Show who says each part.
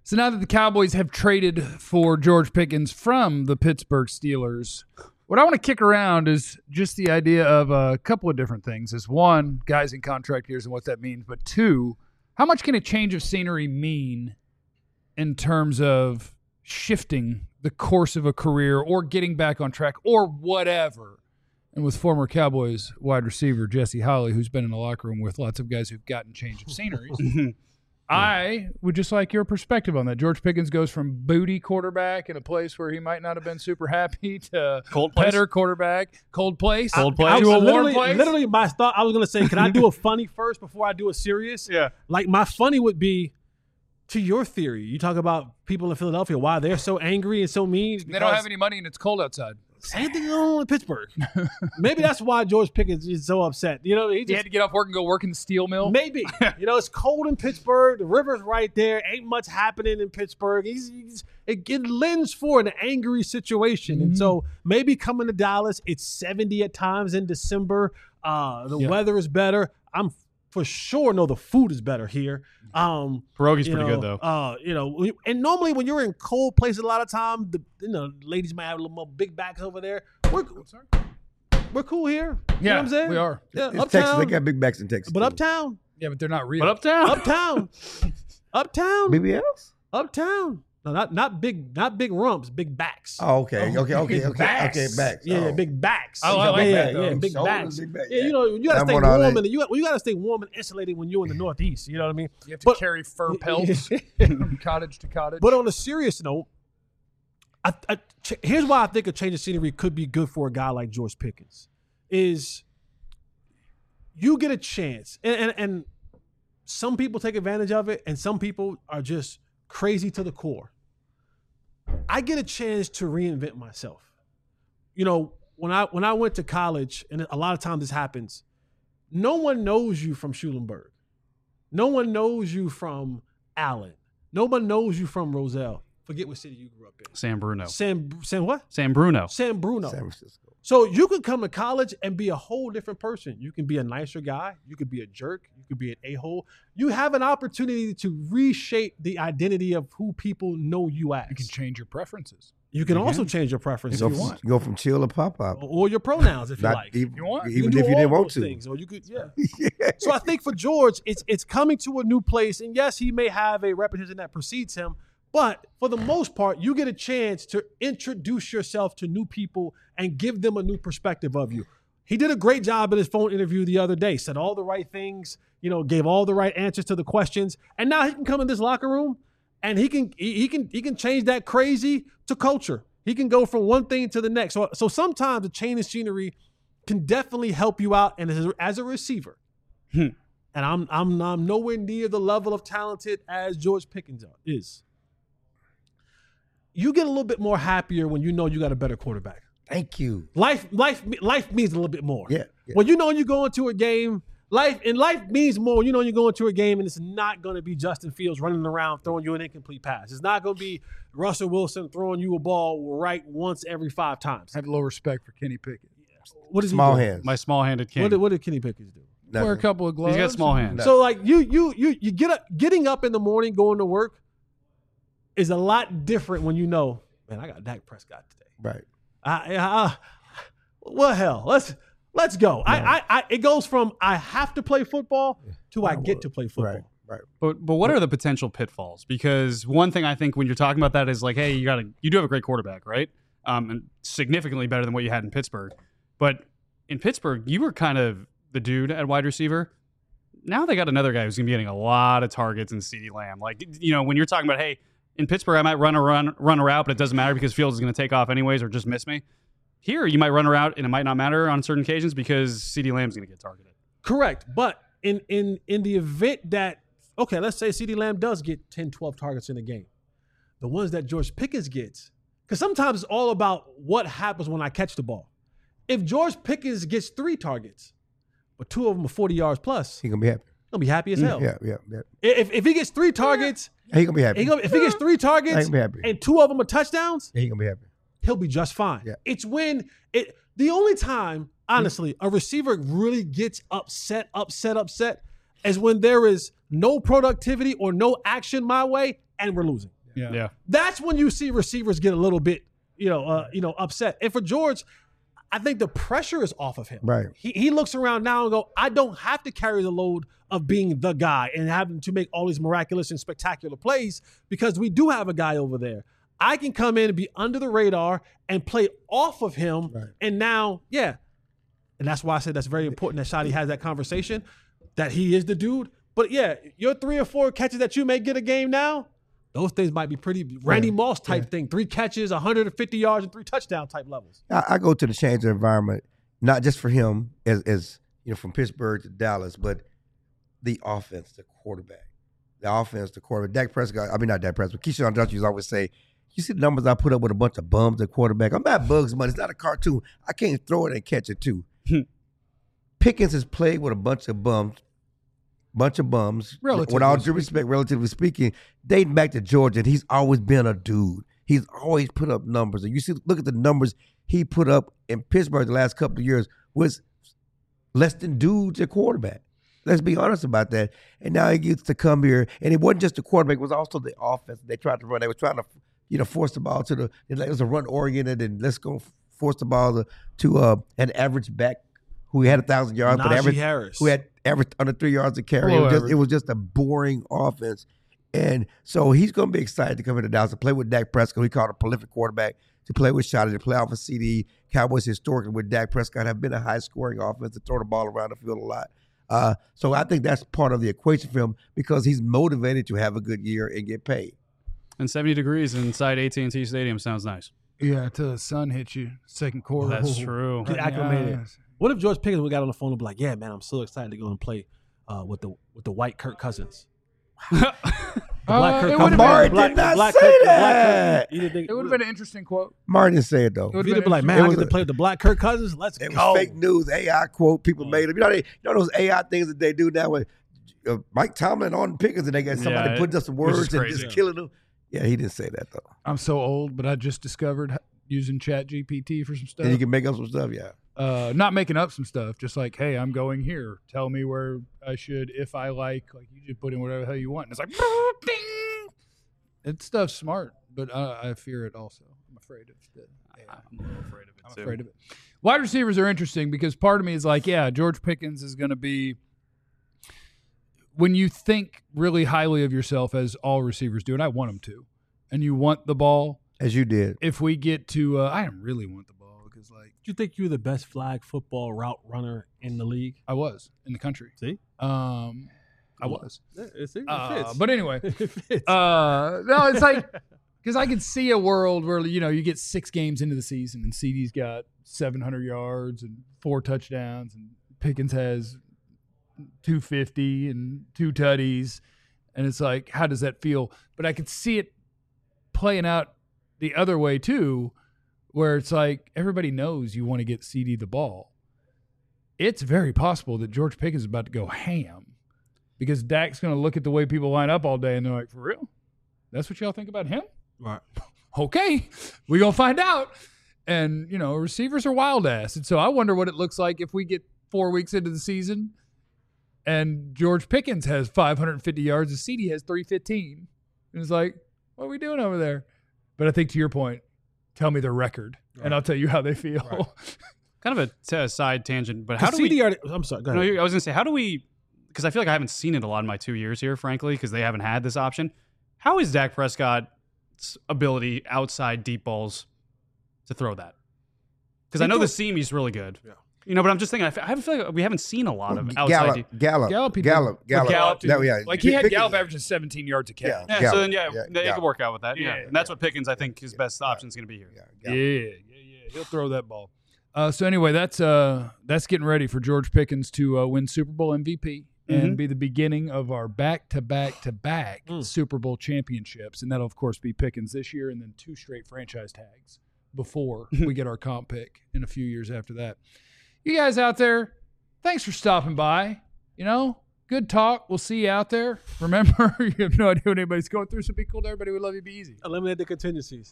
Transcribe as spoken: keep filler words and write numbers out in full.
Speaker 1: So now that the Cowboys have traded for George Pickens from the Pittsburgh Steelers, what I want to kick around is just the idea of a couple of different things. Is one, guys in contract years and what that means, but two, how much can a change of scenery mean in terms of shifting the course of a career or getting back on track or whatever? And with former Cowboys wide receiver Jesse Holley, who's been in the locker room with lots of guys who've gotten change of sceneries, I would just like your perspective on that. George Pickens goes from booty quarterback in a place where he might not have been super happy to
Speaker 2: cold place.
Speaker 1: Better quarterback, cold place,
Speaker 2: cold place,
Speaker 1: to a
Speaker 3: literally,
Speaker 1: warm place.
Speaker 3: Literally, my thought. I was gonna say, can I do a funny first before I do a serious?
Speaker 2: Yeah.
Speaker 3: Like my funny would be, to your theory, you talk about people in Philadelphia, why they're so angry and so mean.
Speaker 1: They don't have any money and it's cold outside.
Speaker 3: Same thing going on in Pittsburgh. Maybe that's why George Pickens is so upset. You know, he, just,
Speaker 1: he had to get off work and go work in the steel mill.
Speaker 3: Maybe. You know, it's cold in Pittsburgh. The river's right there. Ain't much happening in Pittsburgh. He's, he's it, it lends for an angry situation. Mm-hmm. And so maybe coming to Dallas, it's seventy at times in December. Uh, the
Speaker 1: yeah.
Speaker 3: weather is better. I'm for sure know the food is better here. Um,
Speaker 2: Pierogi's pretty
Speaker 3: know,
Speaker 2: good though.
Speaker 3: Uh, you know, and normally when you're in cold places, a lot of time, the you know ladies might have a little more big backs over there. We're we're cool here. You
Speaker 1: yeah,
Speaker 3: know what I'm saying?
Speaker 1: We are.
Speaker 3: Yeah,
Speaker 4: it's
Speaker 3: uptown.
Speaker 4: Texas. They got big backs in Texas.
Speaker 3: But
Speaker 4: too.
Speaker 3: uptown.
Speaker 1: Yeah, but they're not real.
Speaker 2: But uptown,
Speaker 3: uptown, uptown,
Speaker 4: B B Ls.
Speaker 3: uptown. No, not not big, not big rumps, big backs.
Speaker 4: Oh, okay,
Speaker 3: Oh,
Speaker 4: okay, okay, okay,
Speaker 3: backs.
Speaker 4: okay, backs.
Speaker 3: Yeah,
Speaker 4: oh.
Speaker 3: big backs.
Speaker 1: Oh, I like
Speaker 3: yeah,
Speaker 1: that, though.
Speaker 3: yeah, big
Speaker 4: Shoulders,
Speaker 3: backs.
Speaker 4: big back,
Speaker 3: Yeah,
Speaker 4: yeah.
Speaker 3: you know, you gotta
Speaker 4: I'm
Speaker 3: stay
Speaker 4: on
Speaker 3: warm,
Speaker 4: all that.
Speaker 3: and you got, well, you gotta stay warm and insulated when you're in the Northeast. You know what I mean?
Speaker 1: You have to
Speaker 3: But-
Speaker 1: carry fur pelts from cottage to cottage.
Speaker 3: But on a serious note, I, I, ch- here's why I think a change of scenery could be good for a guy like George Pickens. Is you get a chance, and, and, and some people take advantage of it, and some people are just crazy to the core. I get a chance to reinvent myself. You know, when I when I went to college, and a lot of times this happens, no one knows you from Schulenburg. No one knows you from Allen. No one knows you from Roselle. Forget what city you grew up in.
Speaker 2: San Bruno.
Speaker 3: San San what?
Speaker 2: San Bruno.
Speaker 3: San Bruno.
Speaker 4: San Francisco.
Speaker 3: So you could come to college and be a whole different person. You can be a nicer guy. You could be a jerk. You could be an a-hole. You have an opportunity to reshape the identity of who people know you as.
Speaker 1: you can change your preferences.
Speaker 3: You can
Speaker 1: You
Speaker 3: also
Speaker 1: can.
Speaker 3: change your preferences
Speaker 4: Go
Speaker 3: if you
Speaker 4: from,
Speaker 3: want.
Speaker 4: go from chill to pop up.
Speaker 3: Or your pronouns if you
Speaker 4: Not
Speaker 3: like.
Speaker 4: even,
Speaker 1: You want?
Speaker 4: even
Speaker 3: can
Speaker 4: if
Speaker 3: do
Speaker 4: you didn't
Speaker 3: all
Speaker 4: want
Speaker 3: those
Speaker 4: to.
Speaker 3: things. Or you could, yeah.
Speaker 4: Yeah.
Speaker 3: So I think for George, it's it's coming to a new place. And yes, he may have a reputation that precedes him, but for the most part, you get a chance to introduce yourself to new people and give them a new perspective of you. He did a great job in his phone interview the other day, said all the right things, you know, gave all the right answers to the questions. And now he can come in this locker room and he can he, he can he can change that crazy to culture. He can go from one thing to the next. So, so sometimes a change of scenery can definitely help you out. And as a, as a receiver,
Speaker 2: Hmm.
Speaker 3: and I'm, I'm I'm nowhere near the level of talented as George Pickens is. You get a little bit more happier when you know you got a better quarterback.
Speaker 4: Thank you.
Speaker 3: Life, life, life means a little bit more.
Speaker 4: Yeah. yeah.
Speaker 3: When you know you go into a game, life and life means more. You know you go into a game and it's not going to be Justin Fields running around throwing you an incomplete pass. It's not going to be Russell Wilson throwing you a ball right once every five times.
Speaker 1: Have a little respect for Kenny Pickett.
Speaker 3: What does
Speaker 4: Small
Speaker 3: he do?
Speaker 4: hands.
Speaker 2: My small-handed king.
Speaker 3: What did, what did Kenny Pickett do?
Speaker 4: Nothing.
Speaker 1: Wear a couple of gloves.
Speaker 2: He's got small hands.
Speaker 4: No.
Speaker 3: So like you you you you get up getting up in the morning going to work is a lot different when you know, man, I got Dak Prescott today.
Speaker 4: Right.
Speaker 3: I, I, well, hell, let's let's go. I, I, I, it goes from I have to play football to I get to play football.
Speaker 4: Right. Right.
Speaker 2: But but what are the potential pitfalls? Because one thing I think when you're talking about that is like, hey, you got to you do have a great quarterback, right? Um, and significantly better than what you had in Pittsburgh. But in Pittsburgh, you were kind of the dude at wide receiver. Now they got another guy who's gonna be getting a lot of targets in CeeDee Lamb. Like, you know, when you're talking about, hey, in Pittsburgh I might run a run run a route, but it doesn't matter because Fields is gonna take off anyways or just miss me. Here, you might run a route and it might not matter on certain occasions because CeeDee Lamb's gonna get targeted.
Speaker 3: Correct. But in in in the event that, okay, let's say CeeDee Lamb does get ten, twelve targets in a game. The ones that George Pickens gets, because sometimes it's all about what happens when I catch the ball. If George Pickens gets three targets, but two of them are forty yards plus,
Speaker 4: He gonna be happy.
Speaker 3: he'll be happy as hell.
Speaker 4: Yeah. Yeah. Yeah.
Speaker 3: If, if he gets three targets,
Speaker 4: He gonna be happy.
Speaker 3: he gonna, if he gets three
Speaker 4: He
Speaker 3: targets
Speaker 4: gonna be happy.
Speaker 3: and two of them are touchdowns,
Speaker 4: He gonna be happy.
Speaker 3: he'll be just fine.
Speaker 4: Yeah.
Speaker 3: It's when it the only time, honestly, a receiver really gets upset, upset, upset is when there is no productivity or no action my way and we're losing.
Speaker 1: Yeah.
Speaker 2: Yeah.
Speaker 3: That's when you see receivers get a little bit, you know, uh, you know, upset. And for George, I think the pressure is off of him.
Speaker 4: Right.
Speaker 3: He he looks around now and go, I don't have to carry the load of being the guy and having to make all these miraculous and spectacular plays because we do have a guy over there. I can come in and be under the radar and play off of him.
Speaker 4: Right.
Speaker 3: And now, yeah. And that's why I said that's very important that Shadi has that conversation, that he is the dude. But yeah, your three or four catches that you may get a game now, those things might be pretty Randy Moss type
Speaker 4: Yeah.
Speaker 3: thing. Three catches, one hundred fifty yards, and three touchdown type levels.
Speaker 4: I, I go to the change of environment, not just for him as, as you know, from Pittsburgh to Dallas, but the offense, the quarterback. The offense, the quarterback. Dak Prescott, I mean, not Dak Prescott, Keyshawn Johnson always say, you see the numbers I put up with a bunch of bums at quarterback. I'm not Bugs Bunny. It's not a cartoon. I can't throw it and catch it too. Pickens has played with a bunch of bums, bunch of bums.
Speaker 1: Relatively
Speaker 4: with all due
Speaker 1: speaking.
Speaker 4: respect, relatively speaking, dating back to Georgia, and he's always been a dude. He's always put up numbers. And you see, look at the numbers he put up in Pittsburgh the last couple of years was less than dudes at quarterback. Let's be honest about that. And now he gets to come here, and it wasn't just the quarterback; it was also the offense they tried to run. They were trying to, you know, force the ball to the. It was a run oriented, and let's go force the ball to, to uh, an average back who had a thousand yards, but
Speaker 3: Najee
Speaker 4: average
Speaker 3: Harris.
Speaker 4: who had averaged under three yards a carry.
Speaker 1: Hello,
Speaker 4: It was, just,
Speaker 1: average.
Speaker 4: it was just a boring offense. And so he's going to be excited to come into Dallas and play with Dak Prescott, who he called a prolific quarterback, to play with Shotty, to play off of C D. Cowboys historically with Dak Prescott have been a high-scoring offense to throw the ball around the field a lot. Uh, so I think that's part of the equation for him because he's motivated to have a good year and get paid.
Speaker 2: And seventy degrees inside A T and T Stadium sounds nice.
Speaker 1: Yeah, until the sun hits you second quarter.
Speaker 2: That's true.
Speaker 3: Get
Speaker 1: Right in the
Speaker 3: acclimated.
Speaker 1: eyes.
Speaker 3: What if George Pickens we got on the phone and be like, "Yeah, man, I'm so excited to go and play uh, with the with the white Kirk Cousins."
Speaker 1: Uh,
Speaker 3: Black Kirk
Speaker 1: it
Speaker 3: Cousins.
Speaker 1: would've
Speaker 4: Amari
Speaker 1: been-
Speaker 3: Black-
Speaker 4: did not
Speaker 3: Black
Speaker 4: say
Speaker 3: Kirk- the Black
Speaker 4: that.
Speaker 3: Kirk- you didn't think-
Speaker 1: It would have been an interesting quote.
Speaker 4: Martin didn't say it, though.
Speaker 1: It would've
Speaker 3: You'd
Speaker 1: been
Speaker 3: be like, man,
Speaker 4: It
Speaker 3: I
Speaker 4: was
Speaker 3: get to
Speaker 4: a-
Speaker 3: play with the Black Kirk Cousins. Let's
Speaker 4: It was
Speaker 3: go.
Speaker 4: fake news, A I quote. People made them. You know, they, you know those A I things that they do now with uh, Mike Tomlin on Pickens, and they got somebody
Speaker 2: Yeah,
Speaker 4: putting up some
Speaker 2: which is
Speaker 4: words and
Speaker 2: crazy.
Speaker 4: just killing them. Yeah, he didn't say that though.
Speaker 1: I'm so old, but I just discovered h- using Chat G P T for some stuff.
Speaker 4: And you can make up some stuff. Yeah.
Speaker 1: uh, not making up some stuff, just like, hey, I'm going here. Tell me where I should, if I like. Like, you just put in whatever the hell you want. And it's like, ding. It's stuff's smart, but I, I fear it also. I'm afraid of the. Yeah,
Speaker 2: I'm a little afraid of it
Speaker 1: I'm
Speaker 2: too.
Speaker 1: afraid of it. Wide receivers are interesting because part of me is like, yeah, George Pickens is going to be. When you think really highly of yourself, as all receivers do, and I want them to, and you want the ball,
Speaker 4: As you did.
Speaker 1: if we get to, uh, I don't really want the ball because, like,
Speaker 3: Do you think you're the best flag football route runner in the league?
Speaker 1: I was in the country.
Speaker 3: See,
Speaker 1: Um, I was.
Speaker 3: it, it
Speaker 1: Uh,
Speaker 3: fits.
Speaker 1: but anyway,
Speaker 3: it fits.
Speaker 1: uh, no, it's like because I could see a world where you know you get six games into the season and C D's got seven hundred yards and four touchdowns, and Pickens has two fifty and two tutties, and it's like, how does that feel? But I could see it playing out the other way too, where it's like everybody knows you want to get C D the ball. It's very possible that George Pickens is about to go ham because Dak's going to look at the way people line up all day and they're like, for real? That's what y'all think about him?
Speaker 3: right.
Speaker 1: Okay, we going to find out. And, you know, receivers are wild ass. And so I wonder what it looks like if we get four weeks into the season and George Pickens has five hundred fifty yards and C D has three fifteen. And it's like, what are we doing over there? But I think to your point, tell me their record and I'll tell you how they feel.
Speaker 3: Right.
Speaker 2: Kind of a t- side tangent, but how do
Speaker 3: C D
Speaker 2: we?
Speaker 3: already, I'm sorry. Go
Speaker 2: No,
Speaker 3: ahead.
Speaker 2: I was gonna say, how do we? Because I feel like I haven't seen it a lot in my two years here, frankly, because they haven't had this option. How is Dak Prescott's ability outside deep balls to throw that? Because I know the seam he's really good.
Speaker 3: Yeah.
Speaker 2: You know, but I'm just thinking, I f- I have a feeling like we haven't seen a lot of outside
Speaker 4: Gallup,
Speaker 2: deep.
Speaker 4: Gallup,
Speaker 1: Gallup, he did.
Speaker 4: Gallup, Gallup,
Speaker 1: Gallup,
Speaker 4: No, yeah.
Speaker 1: Like he had
Speaker 4: Pickens-
Speaker 1: Gallup averaging seventeen yards a catch.
Speaker 4: Yeah.
Speaker 2: Yeah,
Speaker 4: Gallup,
Speaker 2: so then yeah,
Speaker 4: yeah,
Speaker 2: they
Speaker 4: Gallup.
Speaker 2: could work out with that. Yeah,
Speaker 1: Yeah,
Speaker 2: and that's what Pickens, I think, his best option is going to be here.
Speaker 4: Yeah,
Speaker 1: Yeah,
Speaker 4: Gallup.
Speaker 1: yeah, yeah. He'll throw that ball. Uh, so anyway, that's uh, that's getting ready for George Pickens to uh, win Super Bowl M V P and
Speaker 2: Mhm.
Speaker 1: be the beginning of our back-to-back-to-back
Speaker 3: Mm.
Speaker 1: Super Bowl championships, and that'll of course be Pickens this year, and then two straight franchise tags before we get our comp pick in a few years after that. You guys out there, thanks for stopping by. You know, good talk. We'll see you out there. Remember, you have no idea what anybody's going through, so be cool to everybody. We love you. Be easy.
Speaker 3: Eliminate the contingencies.